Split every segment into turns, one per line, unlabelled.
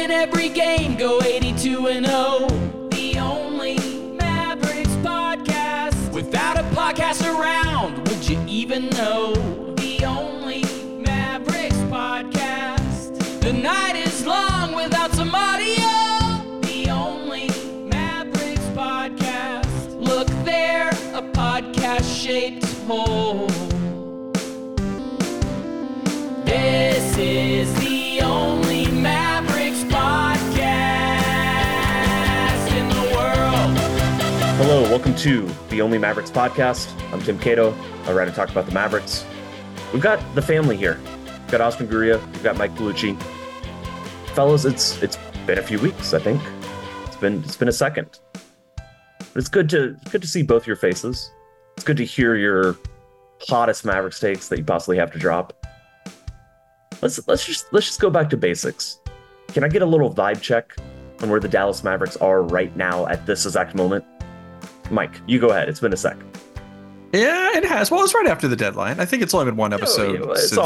win every game, go 82-0. The only Mavericks podcast. Without a podcast around, would you even know? The only Mavericks podcast. The night is long without some audio. The only Mavericks podcast. Look there, a podcast-shaped hole. This is the only Mavericks podcast in the world.
Hello, welcome to the Only Mavericks podcast. I'm Tim Cato. I write and talk about the Mavericks. We've got the family here. We've got Oscar Guria. We've got Mike Bellucci. Fellas, it's been a few weeks, I think. It's been a second. But it's good to see both your faces. It's good to hear your hottest Mavericks takes that you possibly have to drop. Let's just go back to basics. Can I get a little vibe check on where the Dallas Mavericks are right now at this exact moment? Mike, you go ahead. It's been a sec.
Yeah, it has. Well, it's right after the deadline. I think it's only been one episode.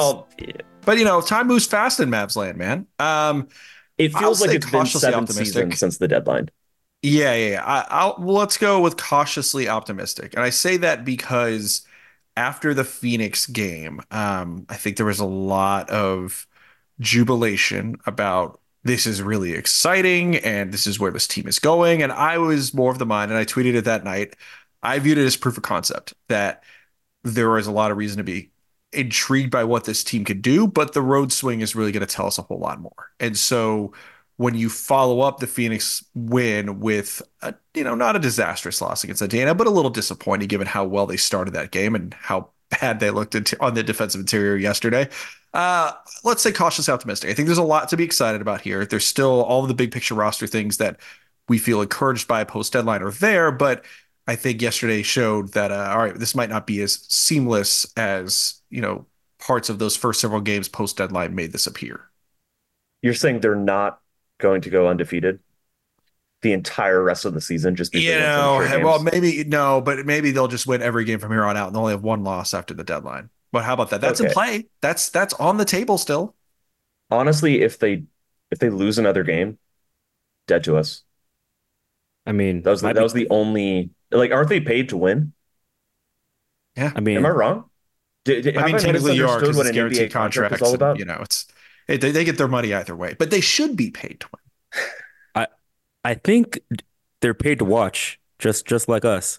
But time moves fast in Mavs land, man.
It feels like it's been 7 seasons since the deadline.
Yeah. Let's go with cautiously optimistic. And I say that because after the Phoenix game, I think there was a lot of jubilation about this is really exciting and this is where this team is going. And I was more of the mind, and I tweeted it that night. I viewed it as proof of concept that there was a lot of reason to be intrigued by what this team could do, but the road swing is really going to tell us a whole lot more. And so when you follow up the Phoenix win with not a disastrous loss against Indiana, but a little disappointing given how well they started that game and how bad they looked on the defensive interior yesterday. Let's say cautiously optimistic. I think there's a lot to be excited about here. There's still all of the big picture roster things that we feel encouraged by post deadline are there, but I think yesterday showed that, all right, this might not be as seamless as, parts of those first several games post deadline made this appear.
You're saying they're not going to go undefeated the entire rest of the season? Just
maybe they'll just win every game from here on out and they'll only have one loss after the deadline. But how about that? That's in play. That's on the table still.
Honestly, if they lose another game, dead to us.
I mean,
that was the only, aren't they paid to win?
Yeah.
I mean, am I wrong?
Technically you are, because
what
it's
an
guaranteed
NBA
contract
is all about?
They get their money either way, but they should be paid to win.
I think they're paid to watch, just like us.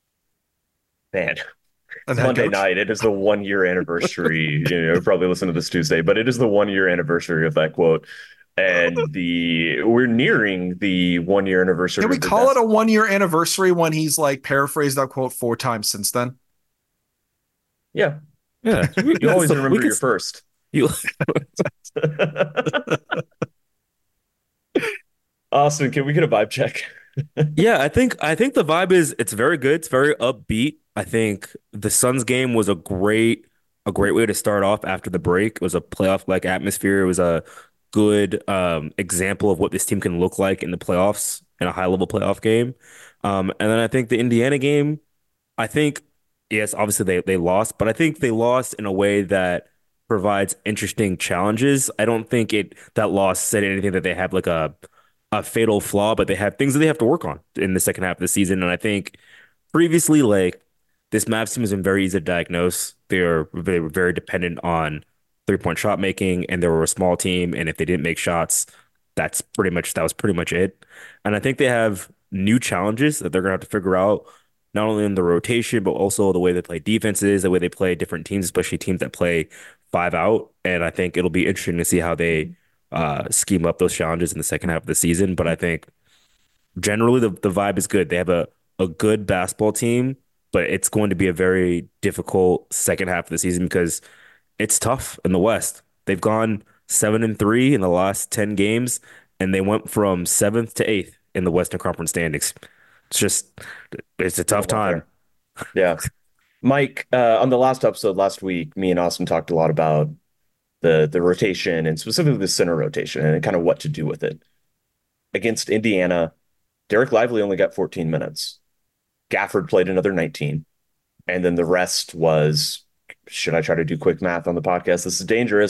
Man, Monday night, it is the 1 year anniversary. Probably listen to this Tuesday, but it is the 1 year anniversary of that quote. And we're nearing the 1 year anniversary.
Can we call it a 1 year anniversary when he's paraphrased that quote 4 times since then?
Yeah. You always remember your first. Austin, can we get a vibe check?
Yeah, I think the vibe it's very good. It's very upbeat. I think the Suns game was a great way to start off after the break. It was a playoff-like atmosphere. It was a good example of what this team can look like in the playoffs, in a high-level playoff game. And then I think the Indiana game, yes, obviously they lost, but I think they lost in a way that provides interesting challenges. I don't think that loss said anything that they have a fatal flaw, but they have things that they have to work on in the second half of the season. And I think previously, this Mavs team has been very easy to diagnose. They were very dependent on 3-point shot making, and they were a small team. And if they didn't make shots, that was pretty much it. And I think they have new challenges that they're going to have to figure out, not only in the rotation, but also the way they play defenses, the way they play different teams, especially teams that play 5 out. And I think it'll be interesting to see how they scheme up those challenges in the second half of the season. But I think generally the vibe is good. They have a good basketball team, but it's going to be a very difficult second half of the season because it's tough in the West. They've gone 7-3 in the last 10 games, and they went from 7th to 8th in the Western Conference standings. It's a tough time.
Yeah. Mike, on the last episode last week, me and Austin talked a lot about the rotation and specifically the center rotation and kind of what to do with it. Against Indiana, Derek Lively only got 14 minutes. Gafford played another 19. And then the rest was, should I try to do quick math on the podcast? This is dangerous.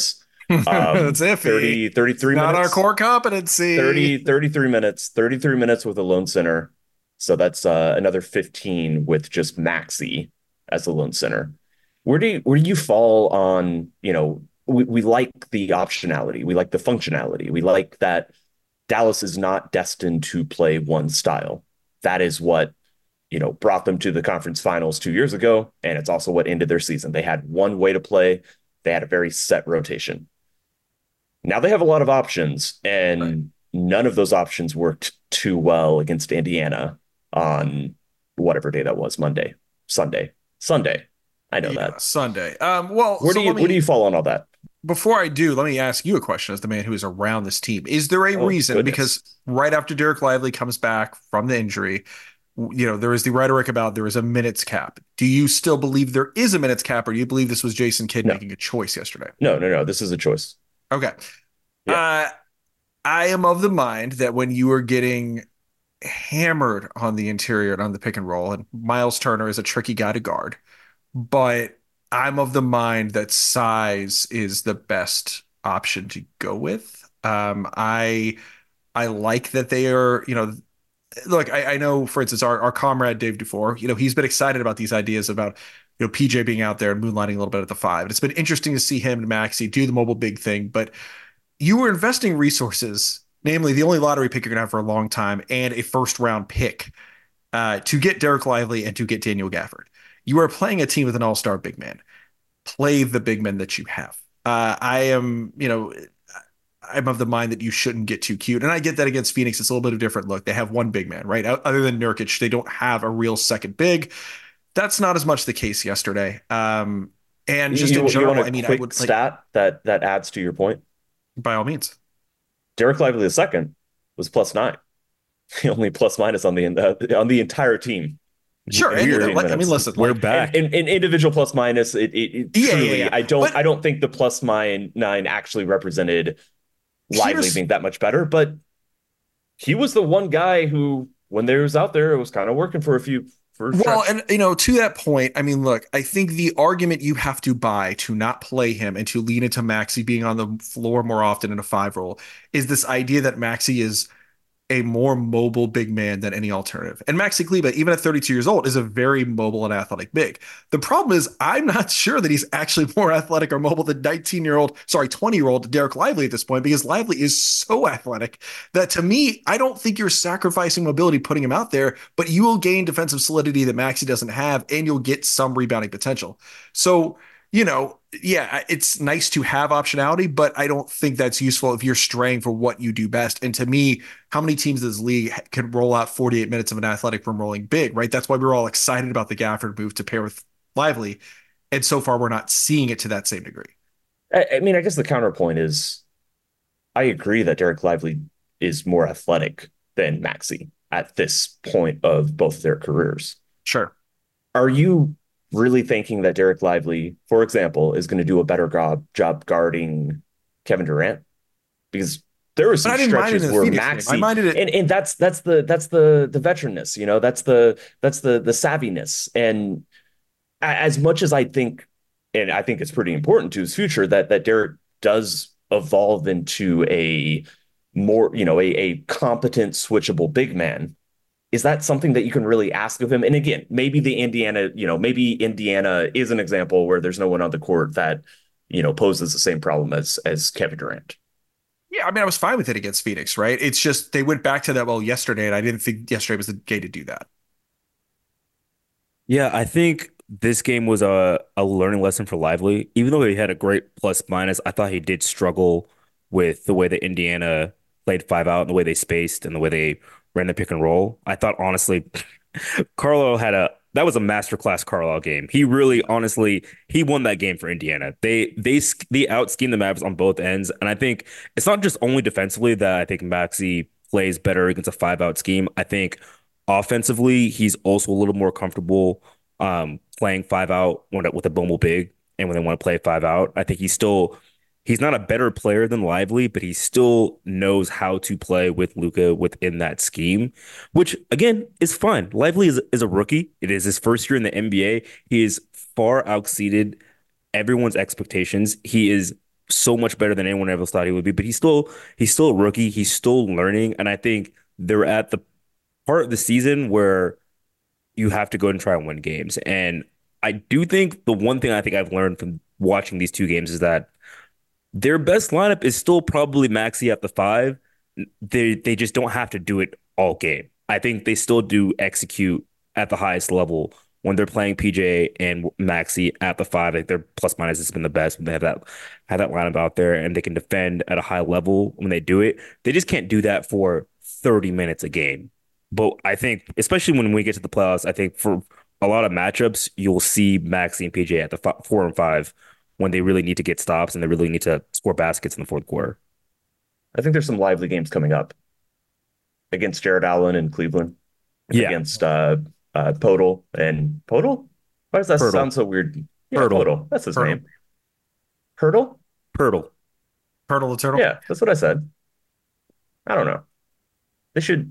That's iffy.
30,
It's
33
not our
minutes,
core competency.
33 minutes with a lone center. So that's another 15 with just Maxi as the lone center. Where do you fall on, we like the optionality. We like the functionality. We like that Dallas is not destined to play one style. That is what, brought them to the conference finals 2 years ago. And it's also what ended their season. They had one way to play. They had a very set rotation. Now they have a lot of options, and none of those options worked too well against Indiana on whatever day that was, Monday, Sunday. I know
Yeah,
that.
Sunday. Well,
Where
so
do you
let
where do
me
you fall on all that?
before I do, let me ask you a question as the man who is around this team. Is there a
Oh
reason?
goodness.
Because right after Derek Lively comes back from the injury, there is the rhetoric about there is a minutes cap. Do you still believe there is a minutes cap, or do you believe this was Jason Kidd
No,
making a choice yesterday?
no. This is a choice.
Okay.
Yeah.
Uh, I am of the mind that when you are getting hammered on the interior and on the pick and roll, and Miles Turner is a tricky guy to guard, but I'm of the mind that size is the best option to go with. I like that they are, look, I know, for instance, our comrade Dave Dufour, he's been excited about these ideas about, PJ being out there and moonlighting a little bit at the five. And it's been interesting to see him and Maxi do the mobile big thing, but you were investing resources, namely the only lottery pick you're going to have for a long time and a first round pick to get Derek Lively and to get Daniel Gafford. You are playing a team with an all-star big man. Play the big men that you have. I'm of the mind that you shouldn't get too cute. And I get that against Phoenix, it's a little bit of a different look. They have one big man, right? Other than Nurkic, they don't have a real second big. That's not as much the case yesterday. And just in
You want
general,
a
I mean, I
quick
would like,
stat that adds to your point?
by all means.
Derek Lively the second was +9. The only plus minus on the entire team.
Sure. And,
Weird.
I mean, listen,
We're
like,
back.
And individual plus minus, it
Yeah,
truly,
yeah.
I don't think the +9 actually represented Lively
Here's
being that much better, but he was the one guy who, when they was out there, it was kind of working for a few for a
Well,
stretch.
and to that point, I mean, look, I think the argument you have to buy to not play him and to lean into Maxi being on the floor more often in a five role is this idea that Maxi is a more mobile big man than any alternative. And Maxi Kleber, even at 32 years old, is a very mobile and athletic big. The problem is, I'm not sure that he's actually more athletic or mobile than 20-year-old Derek Lively at this point, because Lively is so athletic that to me, I don't think you're sacrificing mobility putting him out there, but you will gain defensive solidity that Maxi doesn't have, and you'll get some rebounding potential. So, yeah, it's nice to have optionality, but I don't think that's useful if you're straying for what you do best. And to me, how many teams in this league can roll out 48 minutes of an athletic rim rolling big, right? That's why we were all excited about the Gafford move to pair with Lively. And so far, we're not seeing it to that same degree.
I mean, I guess the counterpoint is I agree that Derek Lively is more athletic than Maxi at this point of both their careers.
Sure.
Are you really thinking that Derek Lively, for example, is going to do a better job guarding Kevin Durant? Because there were
But I
some
didn't mind it
stretches
in the
where
Phoenix game. I
Maxi,
minded it.
and that's the veteranness, that's the savviness. And as much as I think, and I think it's pretty important to his future that Derek does evolve into a more, a competent switchable big man. Is that something that you can really ask of him? And again, maybe Indiana is an example where there's no one on the court that, poses the same problem as Kevin Durant.
Yeah, I mean, I was fine with it against Phoenix, right? It's just they went back to that well yesterday, and I didn't think yesterday was the day to do that.
Yeah, I think this game was a learning lesson for Lively. Even though he had a great plus minus, I thought he did struggle with the way that Indiana played five out and the way they spaced and the way they ran the pick and roll. I thought honestly, Carlo had a that was a masterclass Carlisle game. He really, honestly, he won that game for Indiana. They out schemed the Mavs on both ends, and I think it's not just only defensively that I think Maxi plays better against a five out scheme. I think offensively he's also a little more comfortable playing five out with a Bumble big, and when they want to play five out, I think he's not a better player than Lively, but he still knows how to play with Luka within that scheme, which again is fine. Lively is a rookie. It is his first year in the NBA. He is far exceeded everyone's expectations. He is so much better than anyone ever thought he would be. But he's still a rookie. He's still learning, and I think they're at the part of the season where you have to go and try and win games. And I do think the one thing I think I've learned from watching these two games is that their best lineup is still probably Maxey at the five. They just don't have to do it all game. I think they still do execute at the highest level when they're playing PJ and Maxey at the five. Like their plus minus has been the best when they have that lineup out there and they can defend at a high level when they do it. They just can't do that for 30 minutes a game. But I think, especially when we get to the playoffs, I think for a lot of matchups, you'll see Maxey and PJ at the 4 and 5 when they really need to get stops and they really need to score baskets in the fourth quarter.
I think there's some lively games coming up against Jared Allen in Cleveland,
Yeah,
against Podol and Podol. Why does that
Pirtle.
sound so weird? Yeah,
Pirtle.
Podol. That's his
Pirtle.
name. Hurdle?
Pirtle.
Turtle the turtle.
Yeah, that's what I said. I don't know. They should.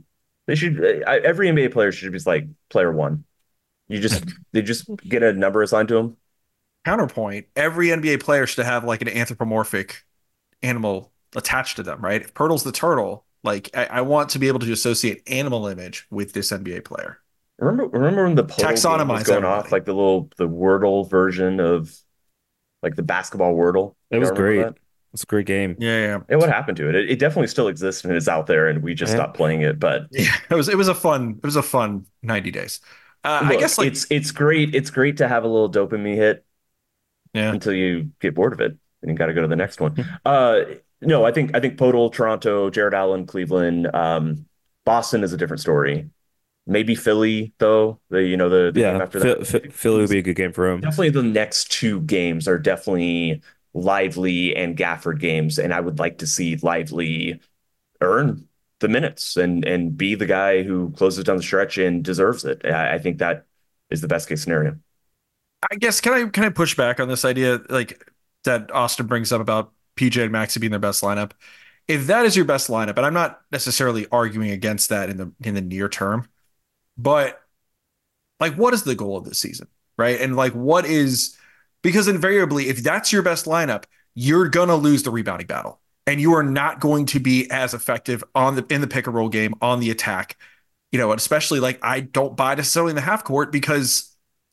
Every NBA player should be like player one. They just get a number assigned to them.
Counterpoint: every NBA player should have like an anthropomorphic animal attached to them, right? If Pirtle's the turtle, like I want to be able to associate animal image with this NBA player.
Remember when the Podol game was
Taxonomize
going
everybody.
off, like the Wordle version of like the basketball Wordle?
It was
Y'all remember
great.
that?
It's a great game.
Yeah.
And what happened to it? It definitely still exists and is out there, and we just
Yeah.
stopped playing it. But
Yeah, it was a fun 90 days. I
look,
guess like
it's great. It's great to have a little dopamine hit
yeah.
until you get bored of it and you got to go to the next one. No, I think Podol, Toronto, Jared Allen, Cleveland, Boston is a different story. Maybe Philly though. The game
Yeah,
after that.
Philly would be a good game for him.
Definitely the next two games are definitely Lively and Gafford games, and I would like to see Lively earn the minutes and be the guy who closes down the stretch and deserves it. I think that is the best case scenario.
I guess can I push back on this idea like that Austin brings up about PJ and Maxey being their best lineup? If that is your best lineup, and I'm not necessarily arguing against that in the near term, but like what is the goal of this season, right? And like what is because invariably if that's your best lineup, you're gonna lose the rebounding battle. And you are not going to be as effective in the pick and roll game on the attack, and especially like I don't buy necessarily in the half court because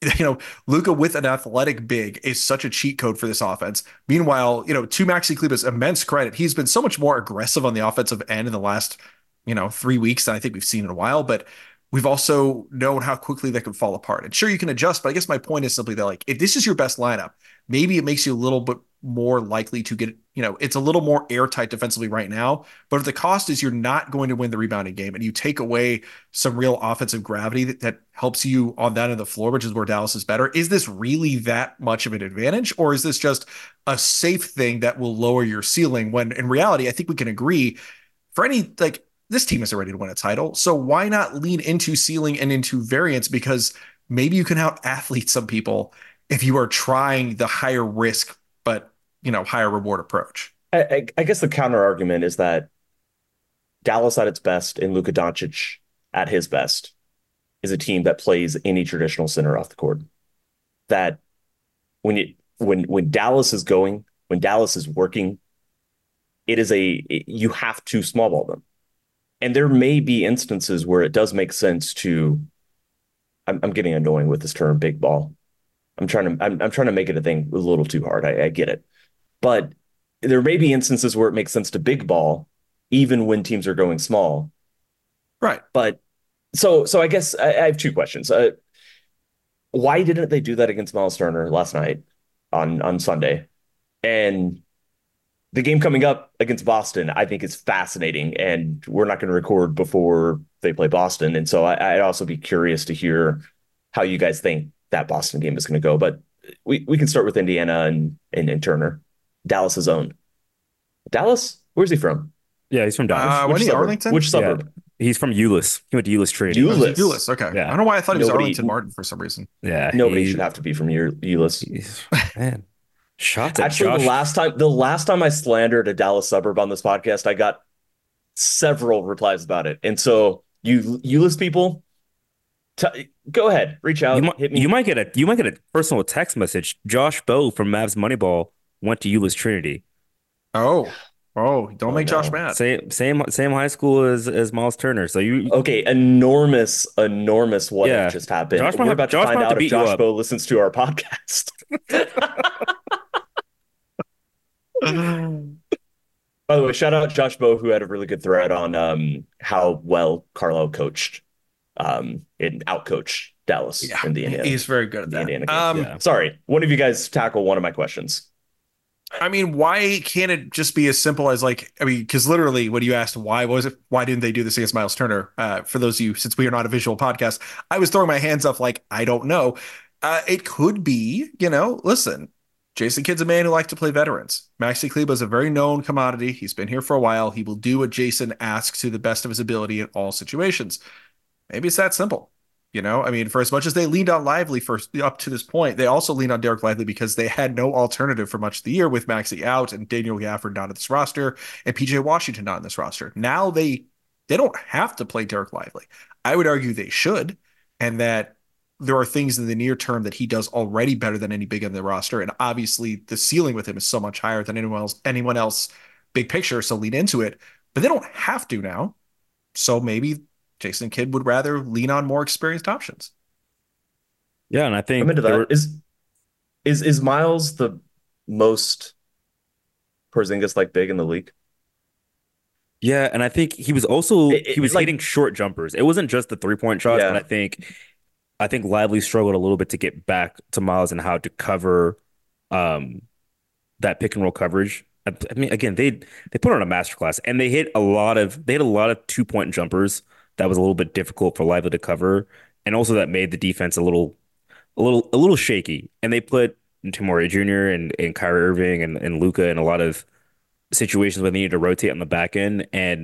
Luka with an athletic big is such a cheat code for this offense. Meanwhile, to Maxi Kleber's immense credit, he's been so much more aggressive on the offensive end in the last 3 weeks than I think we've seen in a while. But we've also known how quickly that can fall apart. And sure, you can adjust, but I guess my point is simply that like if this is your best lineup, maybe it makes you a little bit more likely to get, it's a little more airtight defensively right now. But if the cost is you're not going to win the rebounding game and you take away some real offensive gravity that helps you on that end of the floor, which is where Dallas is better, is this really that much of an advantage? Or is this just a safe thing that will lower your ceiling when in reality, I think we can agree for any, like, this team is ready to win a title. So why not lean into ceiling and into variance? Because maybe you can out athlete some people if you are trying the higher risk, but higher reward approach.
I guess the counter argument is that Dallas at its best and Luka Doncic at his best is a team that plays any traditional center off the court. That when Dallas is going, when Dallas is working, you have to small ball them. And there may be instances where it does make sense to. I'm getting annoying with this term, big ball. I'm trying to make it a thing a little too hard. I get it, but there may be instances where it makes sense to big ball, even when teams are going small.
Right.
But so I guess I have two questions. Why didn't they do that against Miles Turner last night on Sunday? And the game coming up against Boston, I think is fascinating, and we're not going to record before they play Boston. And so I'd also be curious to hear how you guys think that Boston game is going to go. But we can start with Indiana and Turner, Dallas's own. Dallas, where's he from?
Yeah, he's from Dallas.
When he
suburb?
Arlington?
Which suburb?
He's from Euless. He went to Euless Trinity.
Euless.
Okay.
Yeah.
I don't know why I thought he was
Nobody-
Arlington Martin for some reason.
Yeah,
Nobody should have to be from Euless.
Man, shots at
Actually,
Josh.
the last time I slandered a Dallas suburb on this podcast, I got several replies about it. And so you Euless people, go ahead, reach out, hit me.
You might get a personal text message. Josh Bowe from Mavs Moneyball went to Euless Trinity.
Oh, don't
Oh
make Josh
no.
mad.
Same high school as Miles Turner. So you
Okay, enormous, enormous what if
yeah.
just happened. We're about to
Josh might
find
have to
out if
beat you
Josh
up.
Bowe listens to our podcast. By the way, shout out Josh Bowe, who had a really good thread on how well Carlo coached and outcoached Dallas
Yeah,
in the
he's very good at that.
Indiana game.
Yeah.
Sorry, one of you guys tackle one of my questions.
I mean, why can't it just be as simple as like, I mean, because literally when you asked why didn't they do this against Miles Turner? For those of you, since we are not a visual podcast, I was throwing my hands up like, I don't know. It could be, listen, Jason Kidd's a man who likes to play veterans. Maxi Kleber is a very known commodity. He's been here for a while. He will do what Jason asks to the best of his ability in all situations. Maybe it's that simple. I mean, for as much as they leaned on Lively for up to this point, they also leaned on Derek Lively because they had no alternative for much of the year with Maxi out and Daniel Gafford not in this roster and PJ Washington not in this roster. Now they don't have to play Derek Lively. I would argue they should, and that there are things in the near term that he does already better than any big in the roster. And obviously the ceiling with him is so much higher than anyone else big picture. So lean into it. But they don't have to now. So maybe Jason Kidd would rather lean on more experienced options.
Yeah, and I
I'm
think
into
there
that.
were
Is Miles the most Porzingis like big in the league?
yeah, and I think he was
Like
hitting short jumpers. It wasn't just the 3-point shots, and
yeah,
I think Lively struggled a little bit to get back to Miles and how to cover um that pick and roll coverage. I mean, again, they put on a masterclass and they had a lot of 2-point jumpers that was a little bit difficult for Lively to cover, and also that made the defense a little shaky. And they put Timore Jr. and Kyrie Irving and Luka in a lot of situations where they needed to rotate on the back end. And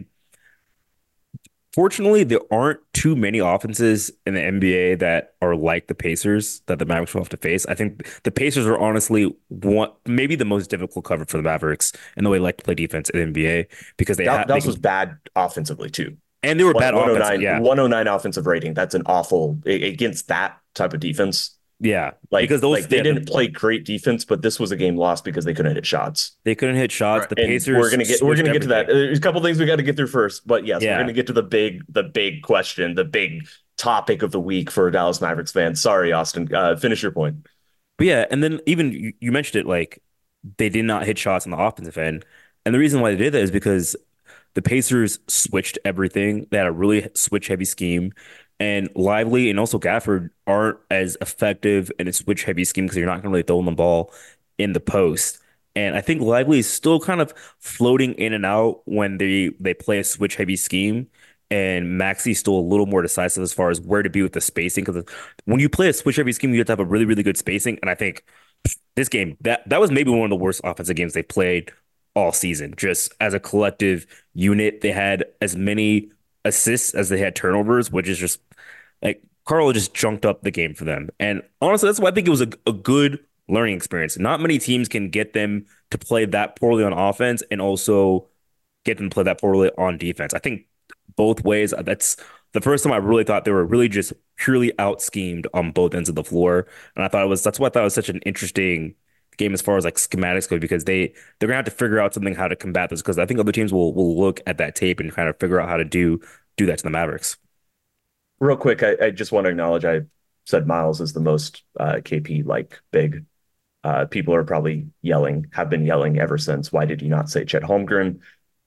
fortunately, there aren't too many offenses in the NBA that are like the Pacers that the Mavericks will have to face. I think the Pacers are honestly maybe the most difficult cover for the Mavericks in the way they like to play defense in the NBA because
Dallas was bad offensively too.
and they were bad offense.
109,
Yeah,
109 offensive rating. That's an awful against that type of defense.
yeah,
Like,
because those
like they didn't play great defense, but this was a game lost because they couldn't hit shots.
they couldn't hit shots.
Right.
The
And
Pacers
we're gonna get
switched
to that.
everything.
There's a couple things we got to get through first, but yes, we're
Yeah.
gonna get to the big question, the big topic of the week for Dallas Mavericks fans. Sorry, Austin. Finish your point.
But yeah, and then even you mentioned it, like they did not hit shots on the offensive end. And the reason why they did that is because the Pacers switched everything. They had a really switch heavy scheme. And Lively and also Gafford aren't as effective in a switch heavy scheme because you're not going to really throw them the ball in the post. And I think Lively is still kind of floating in and out when they play a switch heavy scheme. And Maxi's still a little more decisive as far as where to be with the spacing. Because when you play a switch heavy scheme, you have to have a really, really good spacing. And I think this game, that was maybe one of the worst offensive games they played all season. Just as a collective unit, they had as many assists as they had turnovers, which is just like Carl just junked up the game for them. And honestly, that's why I think it was a good learning experience. Not many teams can get them to play that poorly on offense and also get them to play that poorly on defense. I think both ways, that's the first time I really thought they were really just purely out schemed on both ends of the floor. And that's why I thought it was such an interesting game as far as like schematics go, because they're gonna have to figure out something how to combat this, because I think other teams will look at that tape and kind of figure out how to do that to the Mavericks.
Real quick, I just want to acknowledge I said Miles is the most KP like big. People are probably have been yelling ever since. Why did you not say Chet Holmgren?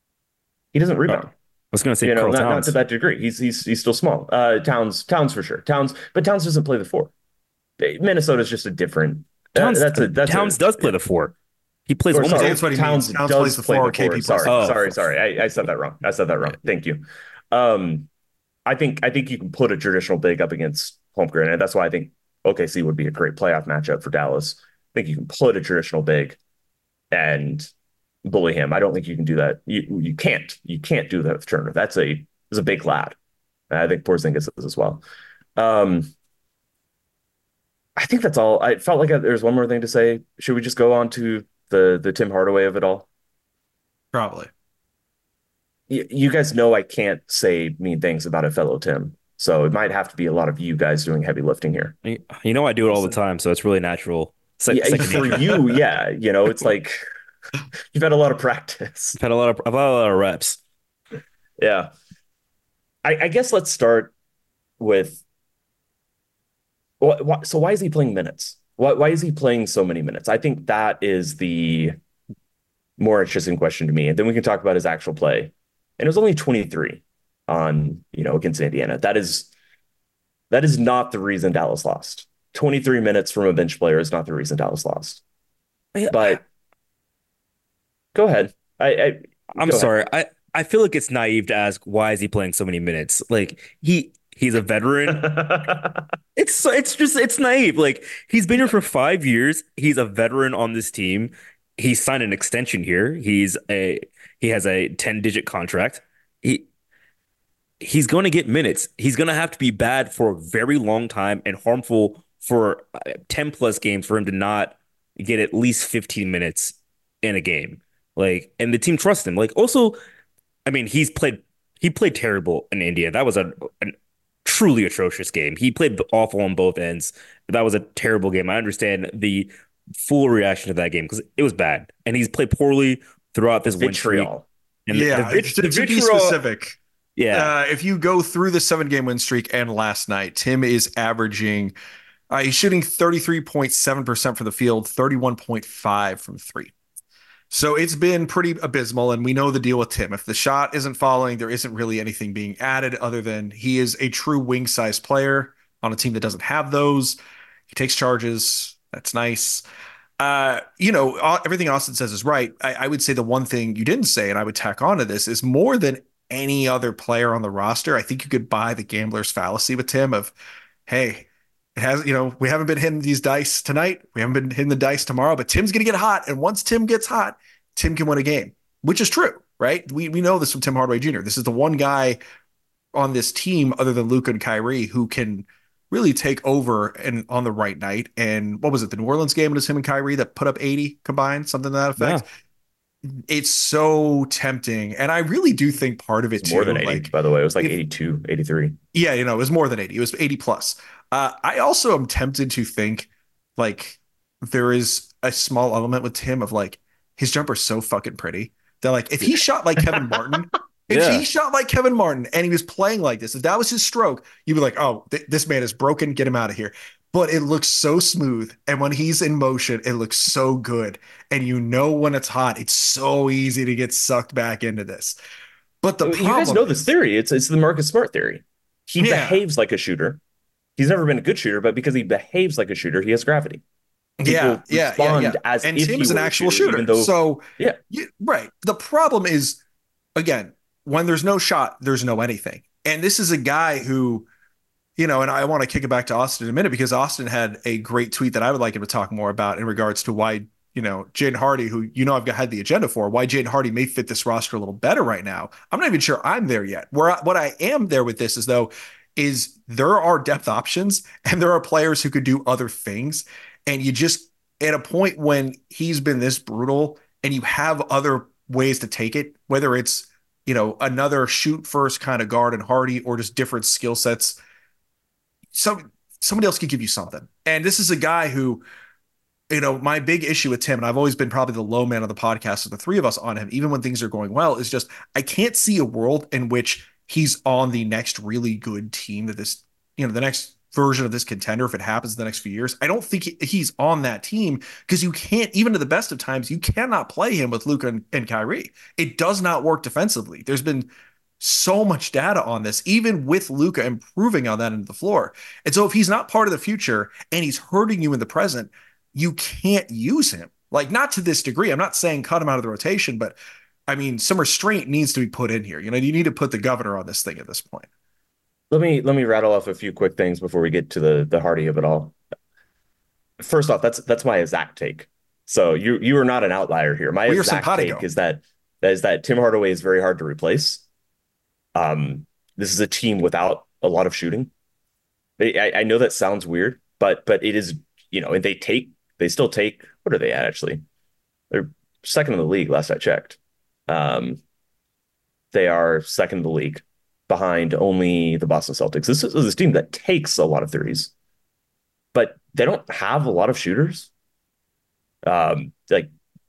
He doesn't rebound.
I was gonna say
Not
Towns.
to that degree. He's still small. Towns for sure. But Towns doesn't play the four. Minnesota's just a different.
Towns does play the four. He plays
Or
almost
sorry,
That's what he
Towns
means. Towns
does
plays the
play
four,
the four.
KP plays
Sorry,
the
sorry. I said that wrong. Thank you. I think you can put a traditional big up against Holmgren, and that's why I think OKC would be a great playoff matchup for Dallas. I think you can put a traditional big and bully him. I don't think you can do that. You can't do that with Turner. That's a big lad. I think Porzingis is as well. I think that's all. I felt like there's one more thing to say. Should we just go on to the Tim Hardaway of it all?
Probably.
You guys know I can't say mean things about a fellow Tim, so it might have to be a lot of you guys doing heavy lifting here.
You know I do it all the time, so it's really natural.
Yeah, for you, yeah. It's like You've had a lot of practice.
I've had a lot of reps.
Yeah. I guess let's start with so why is he playing minutes? Why is he playing so many minutes? I think that is the more interesting question to me. And then we can talk about his actual play. And it was only 23 on, against Indiana. That is not the reason Dallas lost. 23 minutes from a bench player is not the reason Dallas lost. But go ahead.
I'm sorry. I feel like it's naive to ask why is he playing so many minutes? Like he's a veteran. It's naive. Like he's been here for 5 years. He's a veteran on this team. He signed an extension here. He has a 10-digit contract. He's going to get minutes. He's going to have to be bad for a very long time and harmful for 10 plus games for him to not get at least 15 minutes in a game. Like, and the team trusts him. Like, also, I mean, he played terrible in India. That was a truly atrocious game. He played awful on both ends. That was a terrible game. I understand the full reaction to that game because it was bad, and he's played poorly throughout this win streak.
And to be specific, if you go through the 7-game win streak and last night, Tim is averaging. He's shooting 33.7% from the field, 31.5 from three. So it's been pretty abysmal, and we know the deal with Tim. If the shot isn't falling, there isn't really anything being added other than he is a true wing-sized player on a team that doesn't have those. He takes charges. That's nice. Everything Austin says is right. I would say the one thing you didn't say, and I would tack onto this, is more than any other player on the roster, I think you could buy the gambler's fallacy with Tim of, hey, it has, we haven't been hitting these dice tonight. We haven't been hitting the dice tomorrow, but Tim's going to get hot. And once Tim gets hot, Tim can win a game, which is true, right? We know this from Tim Hardaway Jr. This is the one guy on this team other than Luka and Kyrie who can really take over and on the right night. And what was it? The New Orleans game, it was him and Kyrie that put up 80 combined, something to that effect. Yeah. It's so tempting. And I really do think part of it too.
More than 80, by the way. It was like 82, 83.
Yeah, it was more than 80. It was 80 plus. I also am tempted to think like there is a small element with Tim of like his jumper's so fucking pretty that like if he shot like Kevin Martin, he shot like Kevin Martin and he was playing like this, if that was his stroke, you'd be like, oh, this man is broken, get him out of here. But it looks so smooth. And when he's in motion, it looks so good. And when it's hot, it's so easy to get sucked back into this. But the problem, you
guys know this theory. It's the Marcus Smart theory. He behaves like a shooter. He's never been a good shooter, but because he behaves like a shooter, he has gravity.
People respond
as
and
if
Tim's an actual shooter. Right. The problem is, again, when there's no shot, there's no anything. And this is a guy who, and I want to kick it back to Austin in a minute because Austin had a great tweet that I would like him to talk more about in regards to why, Jaden Hardy, who, I've had the agenda for, why Jaden Hardy may fit this roster a little better right now. I'm not even sure I'm there yet. What I am there with this is there are depth options and there are players who could do other things. And you just, at a point when he's been this brutal and you have other ways to take it, whether it's, another shoot first kind of guard and Hardy or just different skill sets, somebody else could give you something. And this is a guy who, my big issue with Tim, and I've always been probably the low man of the podcast of the three of us on him, even when things are going well, is just, I can't see a world in which he's on the next really good team that this, the next version of this contender, if it happens in the next few years. I don't think he's on that team because you can't, even to the best of times, you cannot play him with Luka and Kyrie. It does not work defensively. There's been so much data on this, even with Luka improving on that end of the floor. And so if he's not part of the future and he's hurting you in the present, you can't use him. Like, not to this degree. I'm not saying cut him out of the rotation, but I mean, some restraint needs to be put in here. You need to put the governor on this thing at this point.
Let me rattle off a few quick things before we get to the Hardy of it all. First off, that's my exact take. So you are not an outlier here. My exact take is that Tim Hardaway is very hard to replace. This is a team without a lot of shooting. I know that sounds weird, but it is, and they still take, what are they at actually? They're second in the league last I checked. They are second in the league behind only the Boston Celtics. This is a team that takes a lot of threes, but they don't have a lot of shooters. Like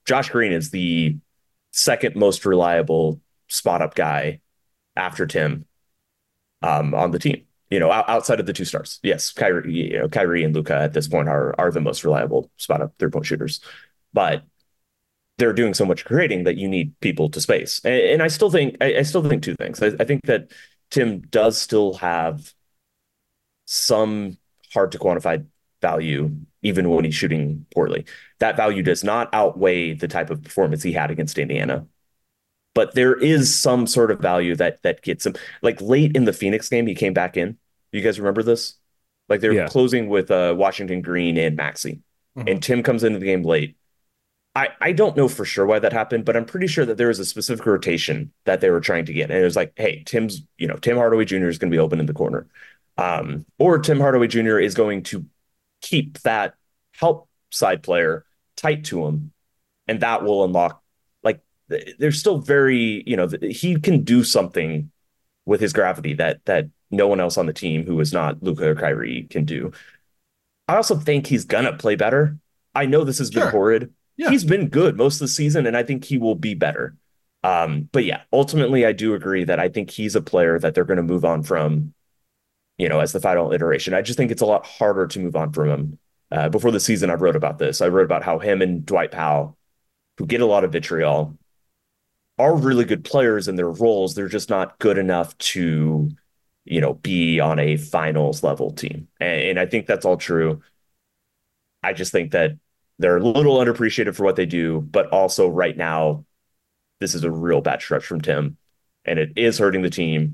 Josh Green is the second most reliable spot up guy after Tim on the team. Outside of the two stars. Yes, Kyrie and Luka at this point are the most reliable spot up 3-point shooters, but they're doing so much creating that you need people to space. And I still think two things. I think that Tim does still have some hard to quantify value, even when he's shooting poorly. That value does not outweigh the type of performance he had against Indiana. But there is some sort of value that gets him. Like late in the Phoenix game, he came back in. You guys remember this? Like they were closing with Washington Green and Maxey. Mm-hmm. And Tim comes into the game late. I don't know for sure why that happened, but I'm pretty sure that there was a specific rotation that they were trying to get. And it was like, hey, Tim Hardaway Jr. is going to be open in the corner. Or Tim Hardaway Jr. is going to keep that help side player tight to him. And that will unlock, like, there's still very, he can do something with his gravity that no one else on the team who is not Luka or Kyrie can do. I also think he's going to play better. I know this has been horrid. Yeah. He's been good most of the season, and I think he will be better. But yeah, ultimately, I do agree that I think he's a player that they're going to move on from, as the final iteration. I just think it's a lot harder to move on from him. Before the season, I wrote about this. I wrote about how him and Dwight Powell, who get a lot of vitriol, are really good players in their roles. They're just not good enough to, be on a finals level team. And I think that's all true. I just think that they're a little underappreciated for what they do, but also right now, this is a real bad stretch from Tim, and it is hurting the team.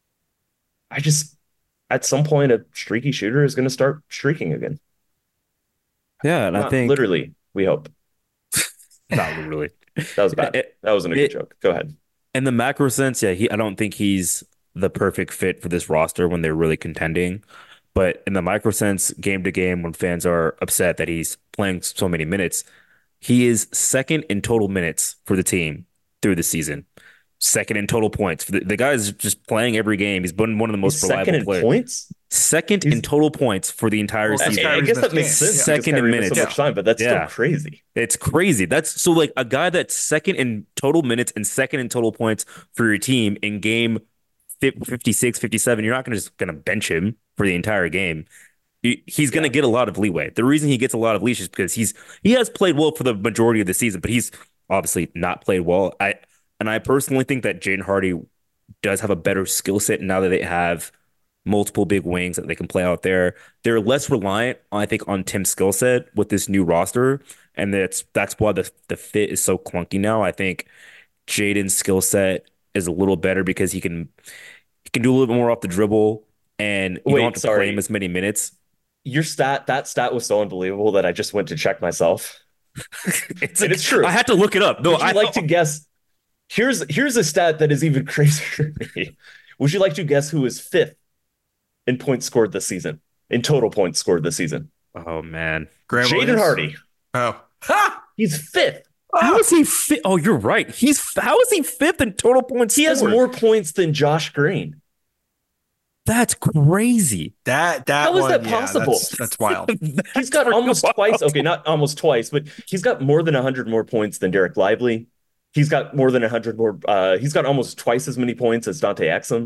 At some point, a streaky shooter is going to start streaking again.
Yeah, and I think
literally, we hope.
Not literally.
That was bad. That wasn't a good joke. Go ahead.
In the macro sense, I don't think he's the perfect fit for this roster when they're really contending. But in the micro sense, game to game, when fans are upset that he's playing so many minutes, he is second in total minutes for the team through the season. Second in total points. The guy is just playing every game. He's been one of the most reliable players.
Points?
Second in total points for the entire season.
I guess that makes sense.
Second in minutes.
So much time, but that's still crazy.
It's crazy. That's so like a guy that's second in total minutes and second in total points for your team in game 56, 57. You're not just going to bench him for the entire game. He's going to get a lot of leeway. The reason he gets a lot of leash is because he has played well for the majority of the season, but he's obviously not played well. I personally think that Jaden Hardy does have a better skill set now that they have multiple big wings that they can play out there. They're less reliant, I think, on Tim's skill set with this new roster, and that's why the fit is so clunky now. I think Jaden's skill set is a little better because he can do a little bit more off the dribble, and you don't have to play him as many minutes.
That stat was so unbelievable that I just went to check myself. It's true.
I had to look it up. No,
I'd like to guess. Here's a stat that is even crazier for me. Would you like to guess who is fifth in points scored this season? In total points scored this season?
Oh man,
Jaden Hardy.
Oh,
he's fifth.
How is he fifth? Oh, you're right. How is he fifth in total points?
He has more points than Josh Green.
That's crazy.
How is that possible?
That's wild.
He's got almost twice. Okay, not almost twice, but he's got more than 100 more points than Derek Lively. He's got more than 100 more. He's got almost twice as many points as Dante Exum.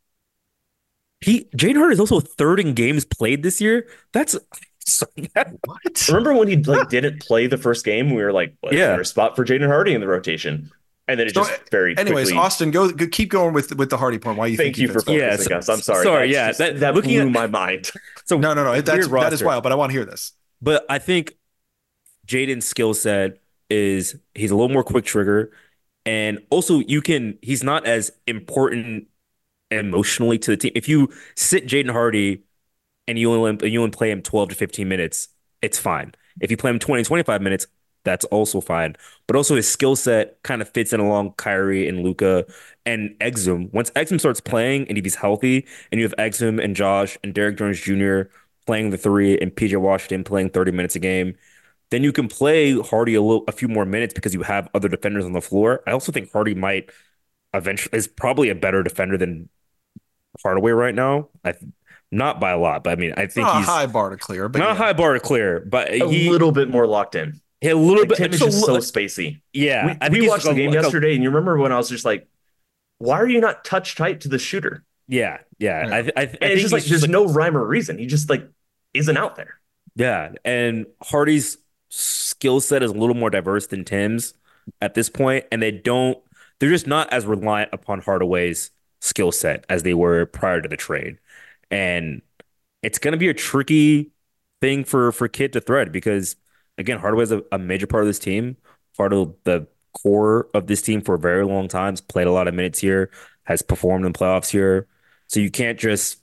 Jaden Hardy is also third in games played this year. That's
what? Remember when he didn't play the first game? We were like, "Is there a spot for Jaden Hardy in the rotation?" And then it just very
anyways,
quickly...
Austin, go keep going with the Hardy point. Why you
Thank you for focusing us. I'm sorry.
Sorry,
that blew my mind.
So no, that is wild. But I want to hear this.
But I think Jaden's skill set is he's a little more quick trigger, and also he's not as important emotionally to the team. If you sit Jaden Hardy and you only play him 12 to 15 minutes, it's fine. If you play him 20, 25 minutes, that's also fine. But also his skill set kind of fits in along Kyrie and Luka and Exum. Once Exum starts playing and if he's healthy and you have Exum and Josh and Derek Jones Jr. playing the three and PJ Washington playing 30 minutes a game, then you can play Hardy a few more minutes because you have other defenders on the floor. I also think Hardy might eventually is probably a better defender than Hardaway right now. Not by a lot, but I mean, I think
he's not a high bar to clear, but
not a high bar to clear, but
a little bit more locked in.
a little
Like
bit.
Tim is
just a
just so
li-
spacey.
yeah, I
We
think he's
watched the
like
game
like
yesterday, and you remember when I was just like, "Why are you not touch tight to the shooter?"
yeah.
Yeah.
I
And it's
think
just like
he's
there's
just like
no rhyme or reason. He just like isn't out there.
yeah, and Hardy's skill set is a little more diverse than Tim's at this point, and they're just not as reliant upon Hardaway's skill set as they were prior to the trade. And it's going to be a tricky thing for Kidd to thread because again, Hardaway's a major part of this team, part of the core of this team for a very long time, played a lot of minutes here, has performed in playoffs here. So you can't just,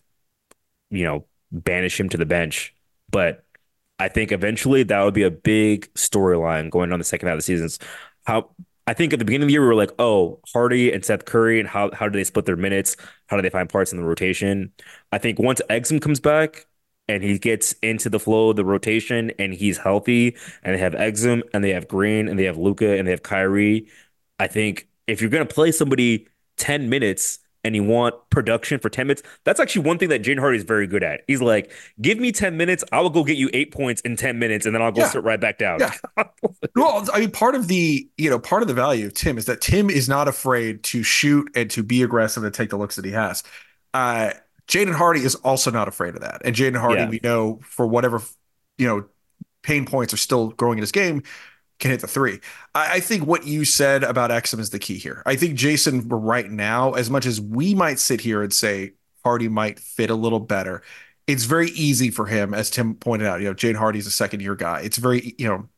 banish him to the bench. But I think eventually that would be a big storyline going on the second half of the season. How I think at the beginning of the year we were like, oh, Hardy and Seth Curry, and how do they split their minutes? How do they find parts in the rotation? I think once Exum comes back and he gets into the flow of the rotation and he's healthy, and they have Exum and they have Green and they have Luka and they have Kyrie, I think if you're gonna play somebody 10 minutes and you want production for 10 minutes, that's actually one thing that Jaden Hardy is very good at. He's like, give me 10 minutes, I will go get you 8 points in 10 minutes, and then I'll go sit right back down.
Yeah. Well, I mean, part of the value of Tim is that Tim is not afraid to shoot and to be aggressive and take the looks that he has. Jaden Hardy is also not afraid of that. And Jaden Hardy, we know, for whatever, pain points are still growing in his game, can hit the three. I think what you said about Exum is the key here. I think Jason, right now, as much as we might sit here and say Hardy might fit a little better, it's very easy for him, as Tim pointed out. Jaden Hardy's a second-year guy. It's very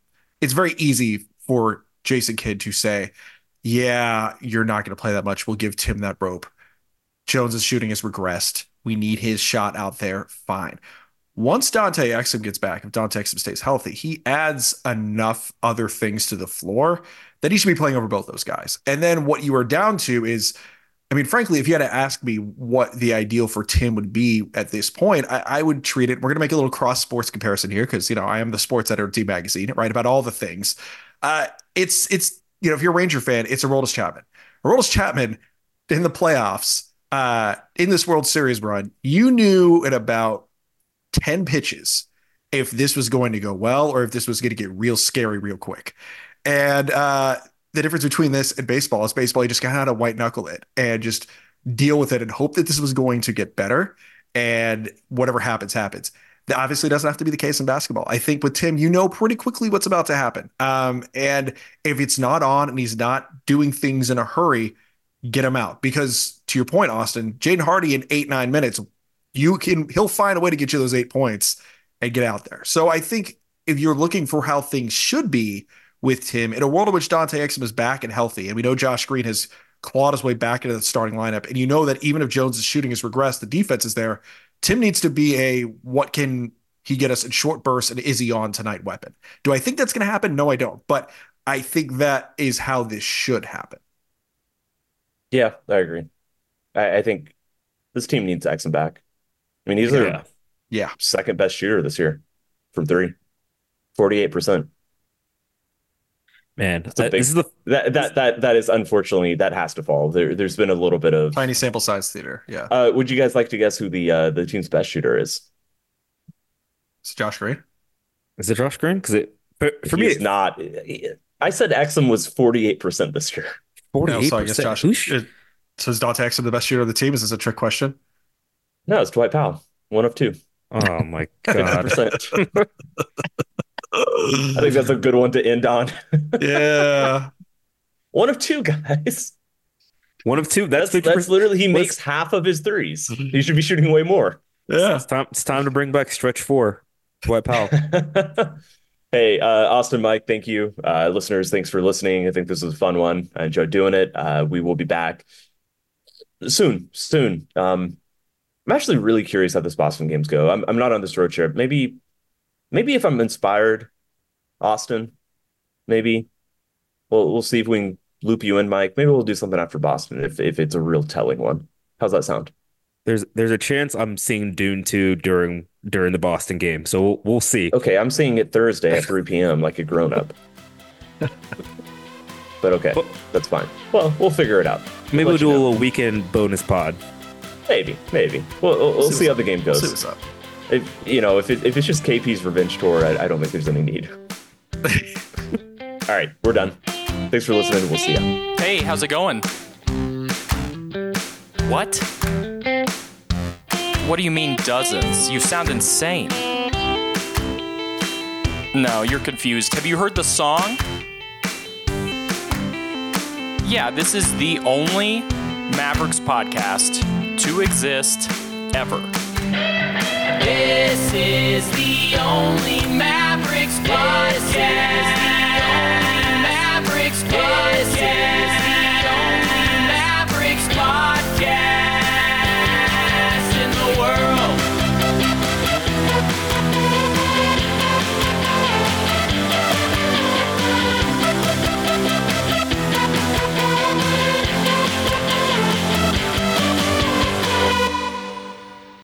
easy for Jason Kidd to say, yeah, you're not going to play that much. We'll give Tim that rope. Jones's shooting has regressed. We need his shot out there. Fine. Once Dante Exum gets back, if Dante Exum stays healthy, he adds enough other things to the floor that he should be playing over both those guys. And then what you are down to is, I mean, frankly, if you had to ask me what the ideal for Tim would be at this point, I would treat it. We're going to make a little cross sports comparison here because, I am the sports editor of D Magazine, right? About all the things. It's if you're a Ranger fan, it's Aroldis Chapman. Aroldis Chapman in the playoffs, in this World Series run, you knew at about 10 pitches if this was going to go well or if this was going to get real scary real quick. And the difference between this and baseball is baseball, you just got to white knuckle it and just deal with it and hope that this was going to get better, and whatever happens, happens. That obviously doesn't have to be the case in basketball. I think with Tim, pretty quickly what's about to happen. And if it's not on and he's not doing things in a hurry, get him out. Because to your point, Austin, Jaden Hardy in 8-9 minutes, he'll find a way to get you those 8 points and get out there. So I think if you're looking for how things should be with Tim, in a world in which Dante Exum is back and healthy, and we know Josh Green has clawed his way back into the starting lineup, and that even if Jones' shooting has regressed, the defense is there, Tim needs to be what can he get us in short bursts, and is he on tonight weapon. Do I think that's going to happen? No, I don't. But I think that is how this should happen.
Yeah, I agree. I think this team needs Exum back. I mean, he's their second best shooter this year from three, 48%.
Man,
that is unfortunately that has to fall. There's been a little bit of
tiny sample size theater. Yeah.
Would you guys like to guess who the team's best shooter is?
It's Josh Green.
Is it Josh Green? Because for me,
it's not. I said Exum was 48% this year.
48%.
So I guess Josh. So is Dante Exum the best shooter of the team? Is this a trick question?
No, it's Dwight Powell. 1 of 2.
Oh my god.
50%. I think that's a good one to end on.
Yeah.
1 of 2, guys.
1 of 2. That's
literally he makes half of his threes. He should be shooting way more.
Yeah.
It's time to bring back stretch 4. Dwight Powell.
Hey, Austin, Mike, thank you. Listeners, thanks for listening. I think this was a fun one. I enjoyed doing it. We will be back soon. I'm actually really curious how this Boston games go. I'm not on this road trip. Maybe if I'm inspired, Austin, maybe we'll see if we can loop you in, Mike. Maybe we'll do something after Boston if it's a real telling one. How's that sound?
There's a chance I'm seeing Dune 2 during the Boston game, so we'll see.
Okay, I'm seeing it Thursday at 3 p.m. like a grown up. But okay, that's fine. Well, we'll figure it out.
Maybe we'll do a little weekend bonus pod.
Maybe. We'll see how the game goes.
We'll see what's up.
If it's just KP's revenge tour, I don't think there's any need. All right, we're done. Thanks for listening. We'll see ya.
Hey, how's it going? What? What do you mean dozens? You sound insane. No, you're confused. Have you heard the song? Yeah, this is the only Mavericks podcast to exist ever. This is the only Mavericks podcast.